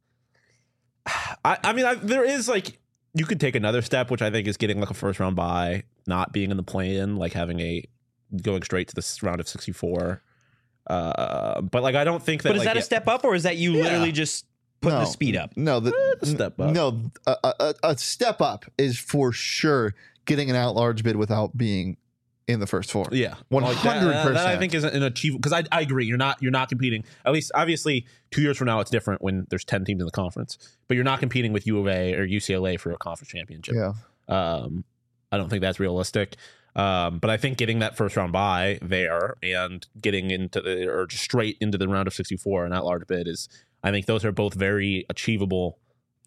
I mean, there is like, you could take another step, which I think is getting like a first round bye, not being in the play-in, like going straight to this round of 64. But like, I don't think that. But is that a step up, or is that you literally just putting the speed up? No, a step up. No, a step up is for sure getting an at-large bid without being in the first four. Yeah, 100%. That I think is an achievable, because I agree. You're not competing. At least, obviously, 2 years from now, it's different when there's 10 teams in the conference. But you're not competing with U of A or UCLA for a conference championship. Yeah. I don't think that's realistic. But I think getting that first round bye there and getting or just straight into the round of 64 and at-large bid is, I think those are both very achievable.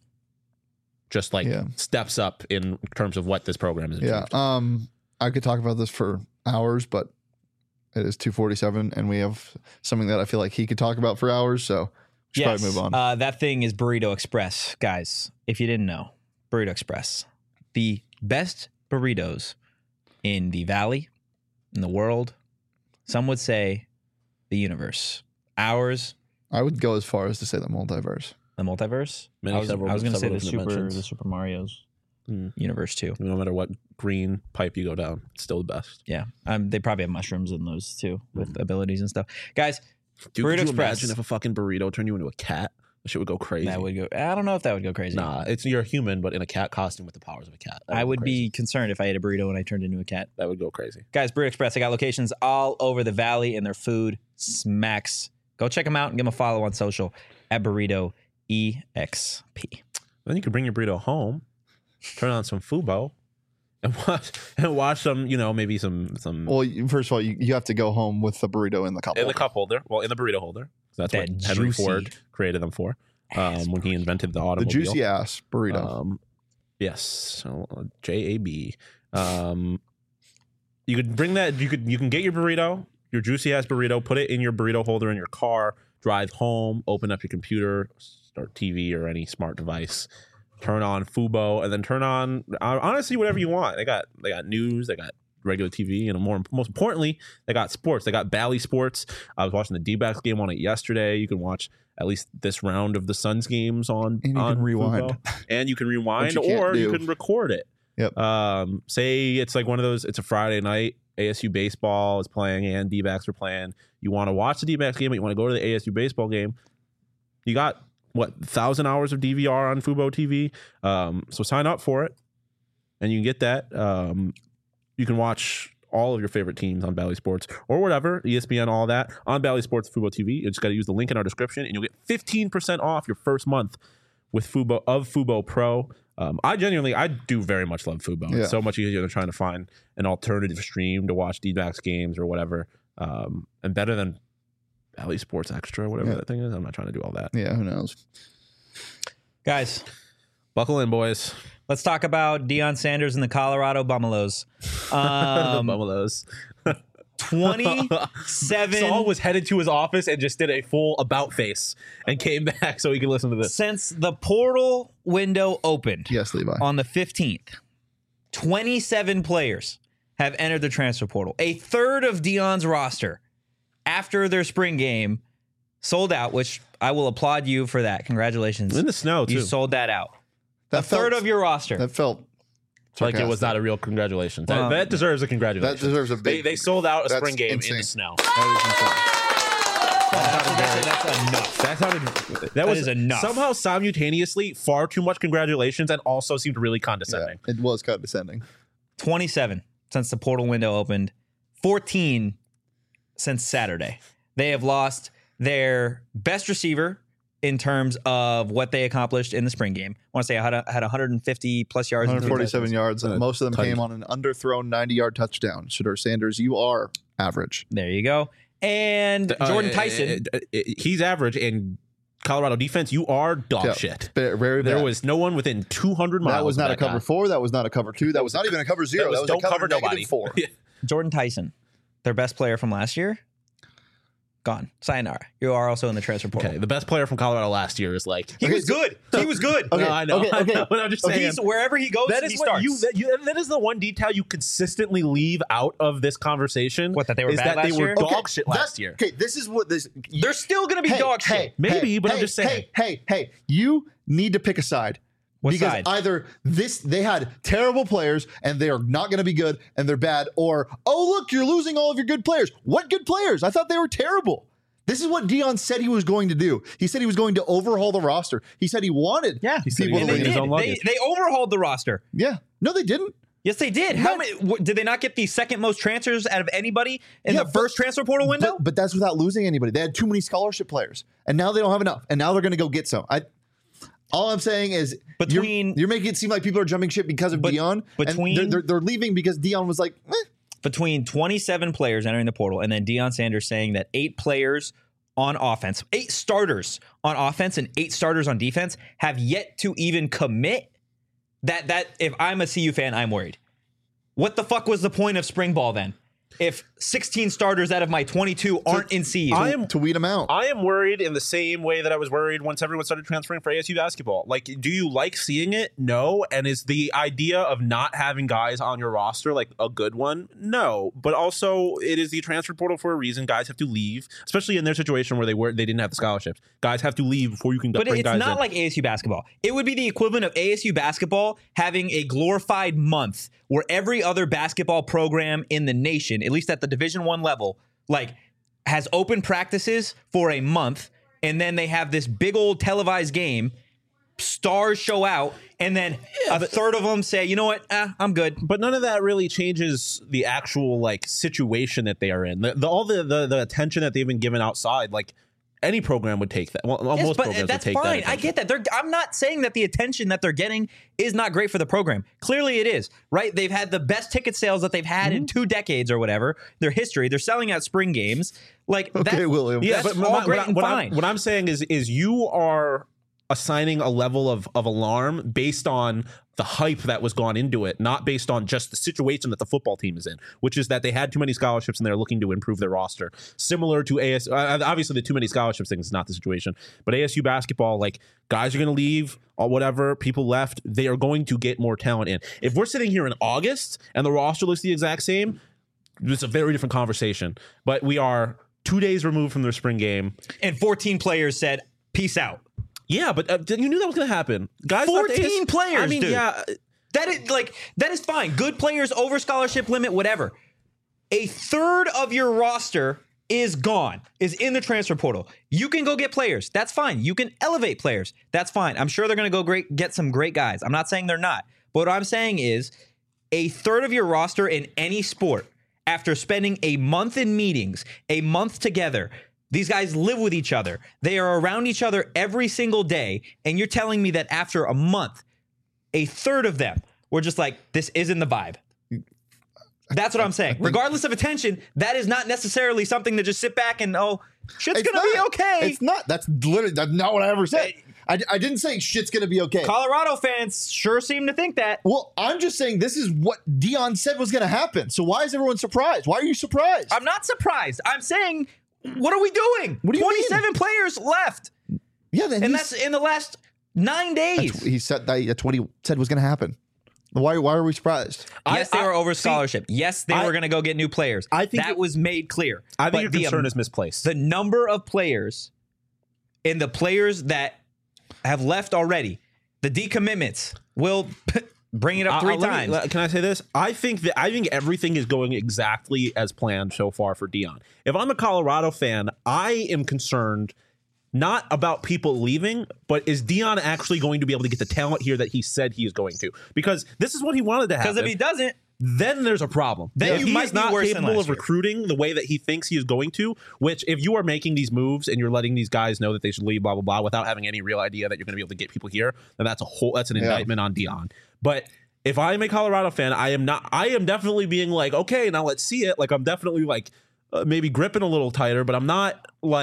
Just like steps up in terms of what this program is. Yeah. I could talk about this for hours, but it is 2:47, and we have something that I feel like he could talk about for hours. So we should probably move on. That thing is Burrito Express, guys. If you didn't know, Burrito Express, the best burritos in the valley, in the world. Some would say the universe. Ours, I would go as far as to say the multiverse. the multiverse. Many I was several- going to say the several dimensions. Super Mario's universe too. No matter what green pipe you go down, it's still the best. Yeah, they probably have mushrooms in those too with abilities and stuff. Guys, Dude, Burrito could you Express. imagine if a fucking burrito turned you into a cat? That shit would go crazy. that would go. I don't know if that would go crazy. Nah, you're a human, but in a cat costume with the powers of a cat. That I go would crazy. be concerned if I ate a burrito and I turned into a cat. That would go crazy. Guys, Burrito Express, they got locations all over the valley and their food smacks. Go check them out and give them a follow on social at Burrito EXP. Then you could bring your burrito home, turn on some Fubo, and watch some, maybe some Well, first of all, you have to go home with the burrito in the cup. in the cup holder. Well, in the burrito holder. That's That what Henry juicy Ford created them for when he invented the The automobile. juicy ass burrito. Yes, so, JAB. You could bring that. You can get your burrito, your juicy ass burrito, put it in your burrito holder in your car, drive home, open up your computer, start TV or any smart device, turn on Fubo, and then turn on honestly whatever you want. They got news, they got regular TV, and most importantly, they got sports. They got Bally Sports. I was watching the D-backs game on it yesterday. You can watch at least this round of the Suns games on And you on can rewind. Fubo. And you can rewind, Which you can't or you do. can record it. Yep. Say it's like one of those, it's a Friday night, ASU baseball is playing and D-backs are playing. You want to watch the D-backs game, but you want to go to the ASU baseball game. You got, 1,000 hours of DVR on Fubo TV. So sign up for it, and you can get that. You can watch all of your favorite teams on Bally Sports or whatever, ESPN, all that, on Bally Sports Fubo TV. You just got to use the link in our description, and you'll get 15% off your first month with Fubo Pro. I do very much love Fubo. Yeah. It's so much easier than trying to find an alternative stream to watch D-backs games or whatever, and better than Bally Sports Extra, whatever that thing is. I'm not trying to do all that. Yeah, who knows? Guys, Buckle in, boys. let's talk about Deion Sanders and the Colorado Bummelos. The Bummelos. 27 Saul was headed to his office and just did a full about face and came back so he could listen to this. since the portal window opened Yes, Levi. on the 15th. 27 players have entered the transfer portal. A third of Deion's roster after their spring game sold out, which I will applaud you for that. Congratulations. In the snow, too. You sold that out. A third of your roster. That felt Like it was sarcastic. not a real congratulations. That deserves a congratulations. That deserves a big. They sold out a That's spring game insane. in the snow. That's enough. That was is enough. Somehow simultaneously far too much congratulations and also seemed really Yeah, condescending. it was condescending. 27 since the portal window opened, 14 since Saturday. They have lost their best receiver in terms of what they accomplished in the spring game. I want to say I had 150 plus yards. 147 yards, and most of them Tight. came on an underthrown 90-yard touchdown. Shedeur Sanders, you are average. There you go. And Jordan Tyson. He's average, and Colorado defense, you are dog Yeah, shit. Very There bad. was no one within 200 miles. That was not of a cover guy. 4. That was not a cover 2. That was not even a cover 0. That was don't a cover nobody. -4. Jordan Tyson, their best player from last year, gone. Sayonara. You are also in the transfer portal. Okay, the best player from Colorado last year is like. He was good. He was good. Okay, No, I know. okay, okay. I know, but I'm just saying. He's wherever he goes, That he is what starts. that is the one detail you consistently leave out of this conversation. What, that they were is bad that they last were year? dog shit That's- last year. Okay, this is what this. They're still going to be dog shit. Maybe, but I'm just saying. Hey, you need to pick a side. What because side? either they had terrible players and they are not going to be good and they're bad, or look, you're losing all of your good players. What good players? I thought they were terrible. This is what Dion said he was going to do. He said he was going to overhaul the roster. He said he wanted He said he people was to And they bring his did. own They, luggage. they overhauled the roster. Yeah. No, they didn't. Yes, they did. How many did they not get the second most transfers out of anybody in Yeah, the first transfer portal window? But that's without losing anybody. They had too many scholarship players, and now they don't have enough. And now they're going to go get some. All I'm saying is, you're making it seem like people are jumping ship because of Dion. And they're leaving because Dion was like, Between 27 players entering the portal and then Deion Sanders saying that 8 players on offense, 8 starters on offense and 8 starters on defense have yet to even commit. That if I'm a CU fan, I'm worried. What the fuck was the point of spring ball then? If 16 starters out of my 22 aren't in CU. to weed them out. I am worried in the same way that I was worried once everyone started transferring for ASU basketball. Like, do you like seeing it? No. And is the idea of not having guys on your roster like a good one? No. But also, it is the transfer portal for a reason. Guys have to leave, especially in their situation where they didn't have the scholarships. Guys have to leave before you can But bring it's guys not in. like ASU basketball. It would be the equivalent of ASU basketball having a glorified month where every other basketball program in the nation, at least at the Division I level, like has open practices for a month, and then they have this big old televised game. Stars show out, and then a third of them say, "You know what? I'm good." But none of that really changes the actual like situation that they are in. All the attention that they've been given outside, like any program would take that. Well, Yes, most but programs that's would take fine. that. I get that. I'm not saying that the attention that they're getting is not great for the program. Clearly, it is. Right? They've had the best ticket sales that they've had in 2 decades or whatever. Their history. They're selling out spring games. Like, Okay, William. Yeah, that's but all great and what fine. I'm saying is you are assigning a level of alarm based on the hype that was gone into it, not based on just the situation that the football team is in, which is that they had too many scholarships and they're looking to improve their roster. Similar to ASU, obviously the too many scholarships thing is not the situation, but ASU basketball, like guys are going to leave or whatever, people left, they are going to get more talent in. If we're sitting here in August and the roster looks the exact same, it's a very different conversation. But we are 2 days removed from their spring game. and 14 players said, "Peace out." Yeah, but you knew that was going to happen. Guys, 14 players, I mean, dude. yeah. That is fine. Good players over scholarship limit, whatever. A third of your roster is gone, is in the transfer portal. You can go get players. That's fine. You can elevate players. That's fine. I'm sure they're going to go get some great guys. I'm not saying they're not. But what I'm saying is a third of your roster in any sport, after spending a month in meetings, a month together, these guys live with each other. They are around each other every single day. And you're telling me that after a month, a third of them were just like, this isn't the vibe. That's what I'm saying. Regardless of attention, that is not necessarily something to just sit back and, shit's going to be okay. It's not. That's not what I ever said. I didn't say shit's going to be okay. Colorado fans sure seem to think that. Well, I'm just saying this is what Dion said was going to happen. So why is everyone surprised? Why are you surprised? I'm not surprised. I'm saying, what are we doing? What do you 27 mean? players left. Yeah, then And that's in the last 9 days. he said that's what he said was going to happen. Why are we surprised? Yes, they were over scholarship. Yes, they were going to go get new players. I think that was made clear. I think But your concern is misplaced. the number of players and the players that have left already, The decommitments will bring it up three times. Can I say this? I think everything is going exactly as planned so far for Deion. If I'm a Colorado fan, I am concerned not about people leaving, but is Deion actually going to be able to get the talent here that he said he is going to? Because this is what he wanted to happen. Because if he doesn't, then there's a problem. Then if you might he's be not worse than capable last of year. recruiting the way that he thinks he is going to, which if you are making these moves and you're letting these guys know that they should leave, blah, blah, blah, without having any real idea that you're going to be able to get people here, then that's an indictment on Deion. But if I'm a Colorado fan, I am definitely being like, okay, now let's see it. Like, I'm definitely like maybe gripping a little tighter, but I'm not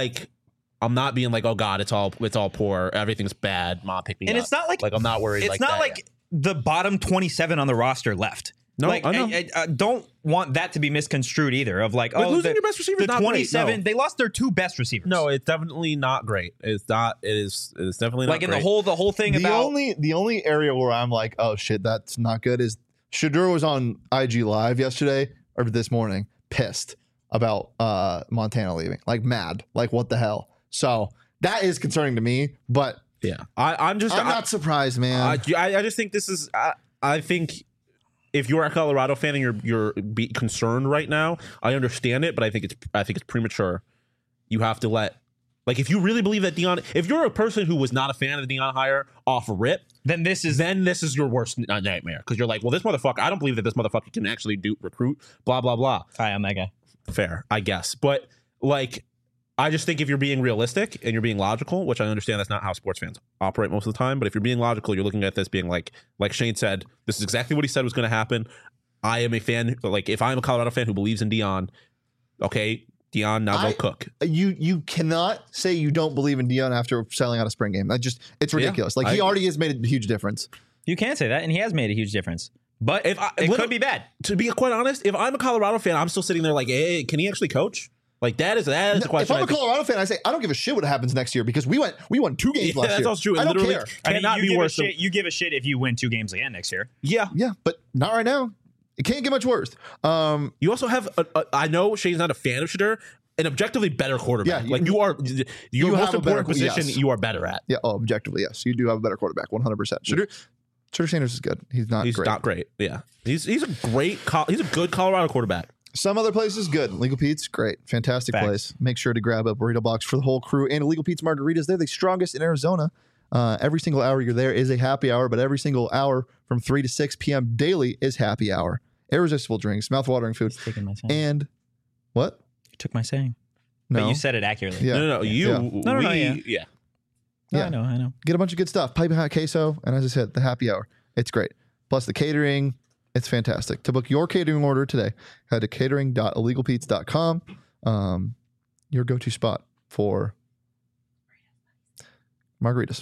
being like, oh God, it's all poor, everything's bad, Mom, pick me up. and it's not like I'm not worried. It's like not that like yet. the bottom 27 on the roster left. No, like, I know. I don't want that to be misconstrued either. Of like, But losing your best receiver is the not great, 27, no. they lost their two best receivers. No, it's definitely not great. It's not. It is definitely not like in great. the whole thing The about only area where I'm like, oh shit, that's not good is Shedeur was on IG Live yesterday or this morning, pissed about Montana leaving, like mad, like what the hell. So that is concerning to me, but Yeah, I'm not surprised, man. I just think this is. I think if you're a Colorado fan and you're concerned right now, I understand it, but I think it's premature. You have to like if you really believe that Deion, if you're a person who was not a fan of the Deion hire off rip, then this is your worst nightmare because you're like, well, this motherfucker, I don't believe that this motherfucker can actually recruit, blah blah blah. Hi, I'm that guy. Fair, I guess, but like. I just think if you're being realistic and you're being logical, which I understand that's not how sports fans operate most of the time, but if you're being logical, you're looking at this being like Shane said, this is exactly what he said was going to happen. I am a fan, like if I'm a Colorado fan who believes in Deion, okay, Deion, now go cook. You cannot say you don't believe in Deion after selling out a spring game. It's ridiculous. Yeah, he already has made a huge difference. You can say that, and he has made a huge difference. But it could be bad. To be quite honest, if I'm a Colorado fan, I'm still sitting there like, hey, can he actually coach? Like that is the question. If I'm a Colorado fan, I say I don't give a shit what happens next year because we won 2 games last year. That's also true. I don't care. Cannot be worse. You give a shit if you win 2 games again next year. Yeah, but not right now. It can't get much worse. You also have. I know Shane's not a fan of Shedeur, an objectively better quarterback. Yeah, like you are. Your most have a better important position, yes. you are better at. Yeah. Oh, objectively, yes. You do have a better quarterback, 100%. Shedeur Sanders is good. He's not great. Yeah, he's a great. He's a good Colorado quarterback. Some other places, good. Legal Pete's, great. Fantastic place. Make sure to grab a burrito box for the whole crew. And Legal Pete's margaritas, they're the strongest in Arizona. Every single hour you're there is a happy hour, but every single hour from 3 to 6 p.m. daily is happy hour. Irresistible drinks, mouth-watering food. Taking my saying. And what? You took my saying. No. But you said it accurately. Yeah. No. You. No, yeah. No, Yeah. I know. Get a bunch of good stuff. Piping hot queso. And as I said, the happy hour. It's great. Plus the catering. It's fantastic. To book your catering order today, head to catering.illegalpete's.com. Your go-to spot for margaritas.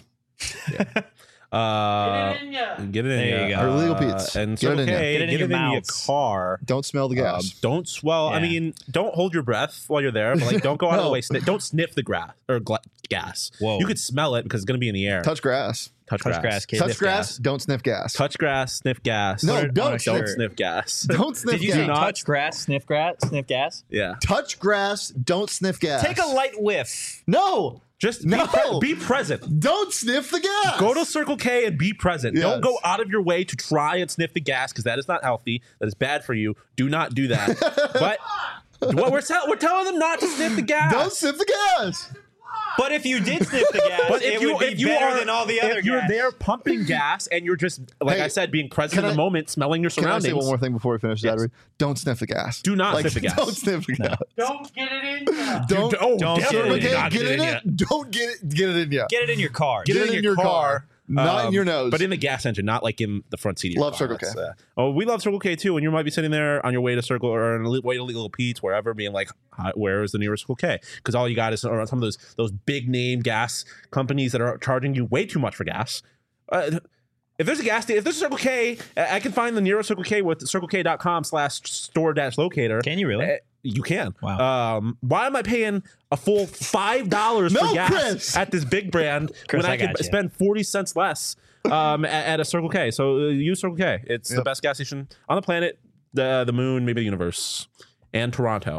Get it in There you go. Or Legal Pete's. And Get it in okay, Get it in your your mouths. car. Don't smell the gas. Don't swell. I Yeah. mean, don't hold your breath while you're there. But like, don't go out of the No. way. Don't sniff the grass or gas. Whoa. You could smell it because it's going to be in the air. Touch grass. Touch Touch grass, kids. Touch Sniff grass. gas. Don't sniff gas. Touch grass. Sniff gas. No, Put it don't on a sniff. shirt. Sniff gas. Don't sniff Did you gas. say touch grass, sniff gas? Yeah. Touch grass. Don't sniff gas. Take a light whiff. No. Just No. be present. Don't sniff the gas. Go to Circle K and be present. Yes. Don't go out of your way to try and sniff the gas because that is not healthy. That is bad for you. Do not do that. But what we're telling them not to sniff the gas. Don't sniff the gas. But if you did sniff the gas, But it would be better than all the other if you're gas. there pumping gas and you're just like Hey, I said, being present in can the I- moment, smelling your Can I surroundings. say one more thing before we finish that? Yes. Don't sniff the gas. Do not sniff the gas. Don't sniff the gas. Don't get it in there. Don't Don't get definitely it in. not get in yet. it. Don't get it in yet. Get it in your car. Get it in your car. Not in your nose. But in the gas engine, not like in the front seat of your Love car. Circle K. That's, we love Circle K too. And you might be sitting there on your way to Circle or on the way to Legal Pete's, wherever, being like, where is the nearest Circle K? Because all you got is some of those big name gas companies that are charging you way too much for gas. If there's a gas station, if there's a Circle K, I can find the nearest Circle K with circlek.com/store-locator. Can you really? You can. Wow. Why am I paying a full $5 No, for gas Chris. at this big brand Chris, when I I could gotcha. spend 40 cents less at a Circle K? So use Circle K. It's the best gas station on the planet, the moon, maybe the universe, and Toronto.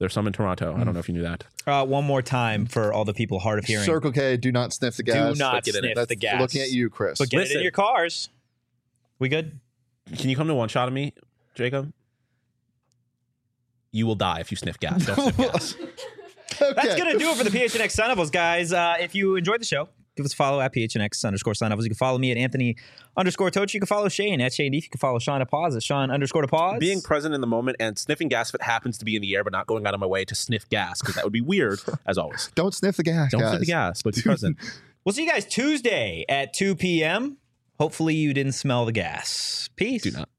There's some in Toronto. I don't know if you knew that. One more time for all the people hard of hearing. Circle K, do not sniff the gas. Do not get it in. sniff the gas. Looking at you, Chris. But get it Listen. in your cars. We good? Can you come to one shot of me, Jacob? You will die if you sniff gas. Don't sniff gas. Okay. That's going to do it for the PHNX Sun Devils, guys. If you enjoyed the show, give us a follow at PHNX_Sun Devils. You can follow me at Anthony_Toach. You can follow Shane at Shane Deef. You can follow Sean at Pause at Sean_Pause. Being present in the moment and sniffing gas if it happens to be in the air, but not going out of my way to sniff gas, because that would be weird, as always. Don't sniff the gas, Don't guys. sniff the gas, but be present. We'll see you guys Tuesday at 2 p.m. Hopefully you didn't smell the gas. Peace. Do not.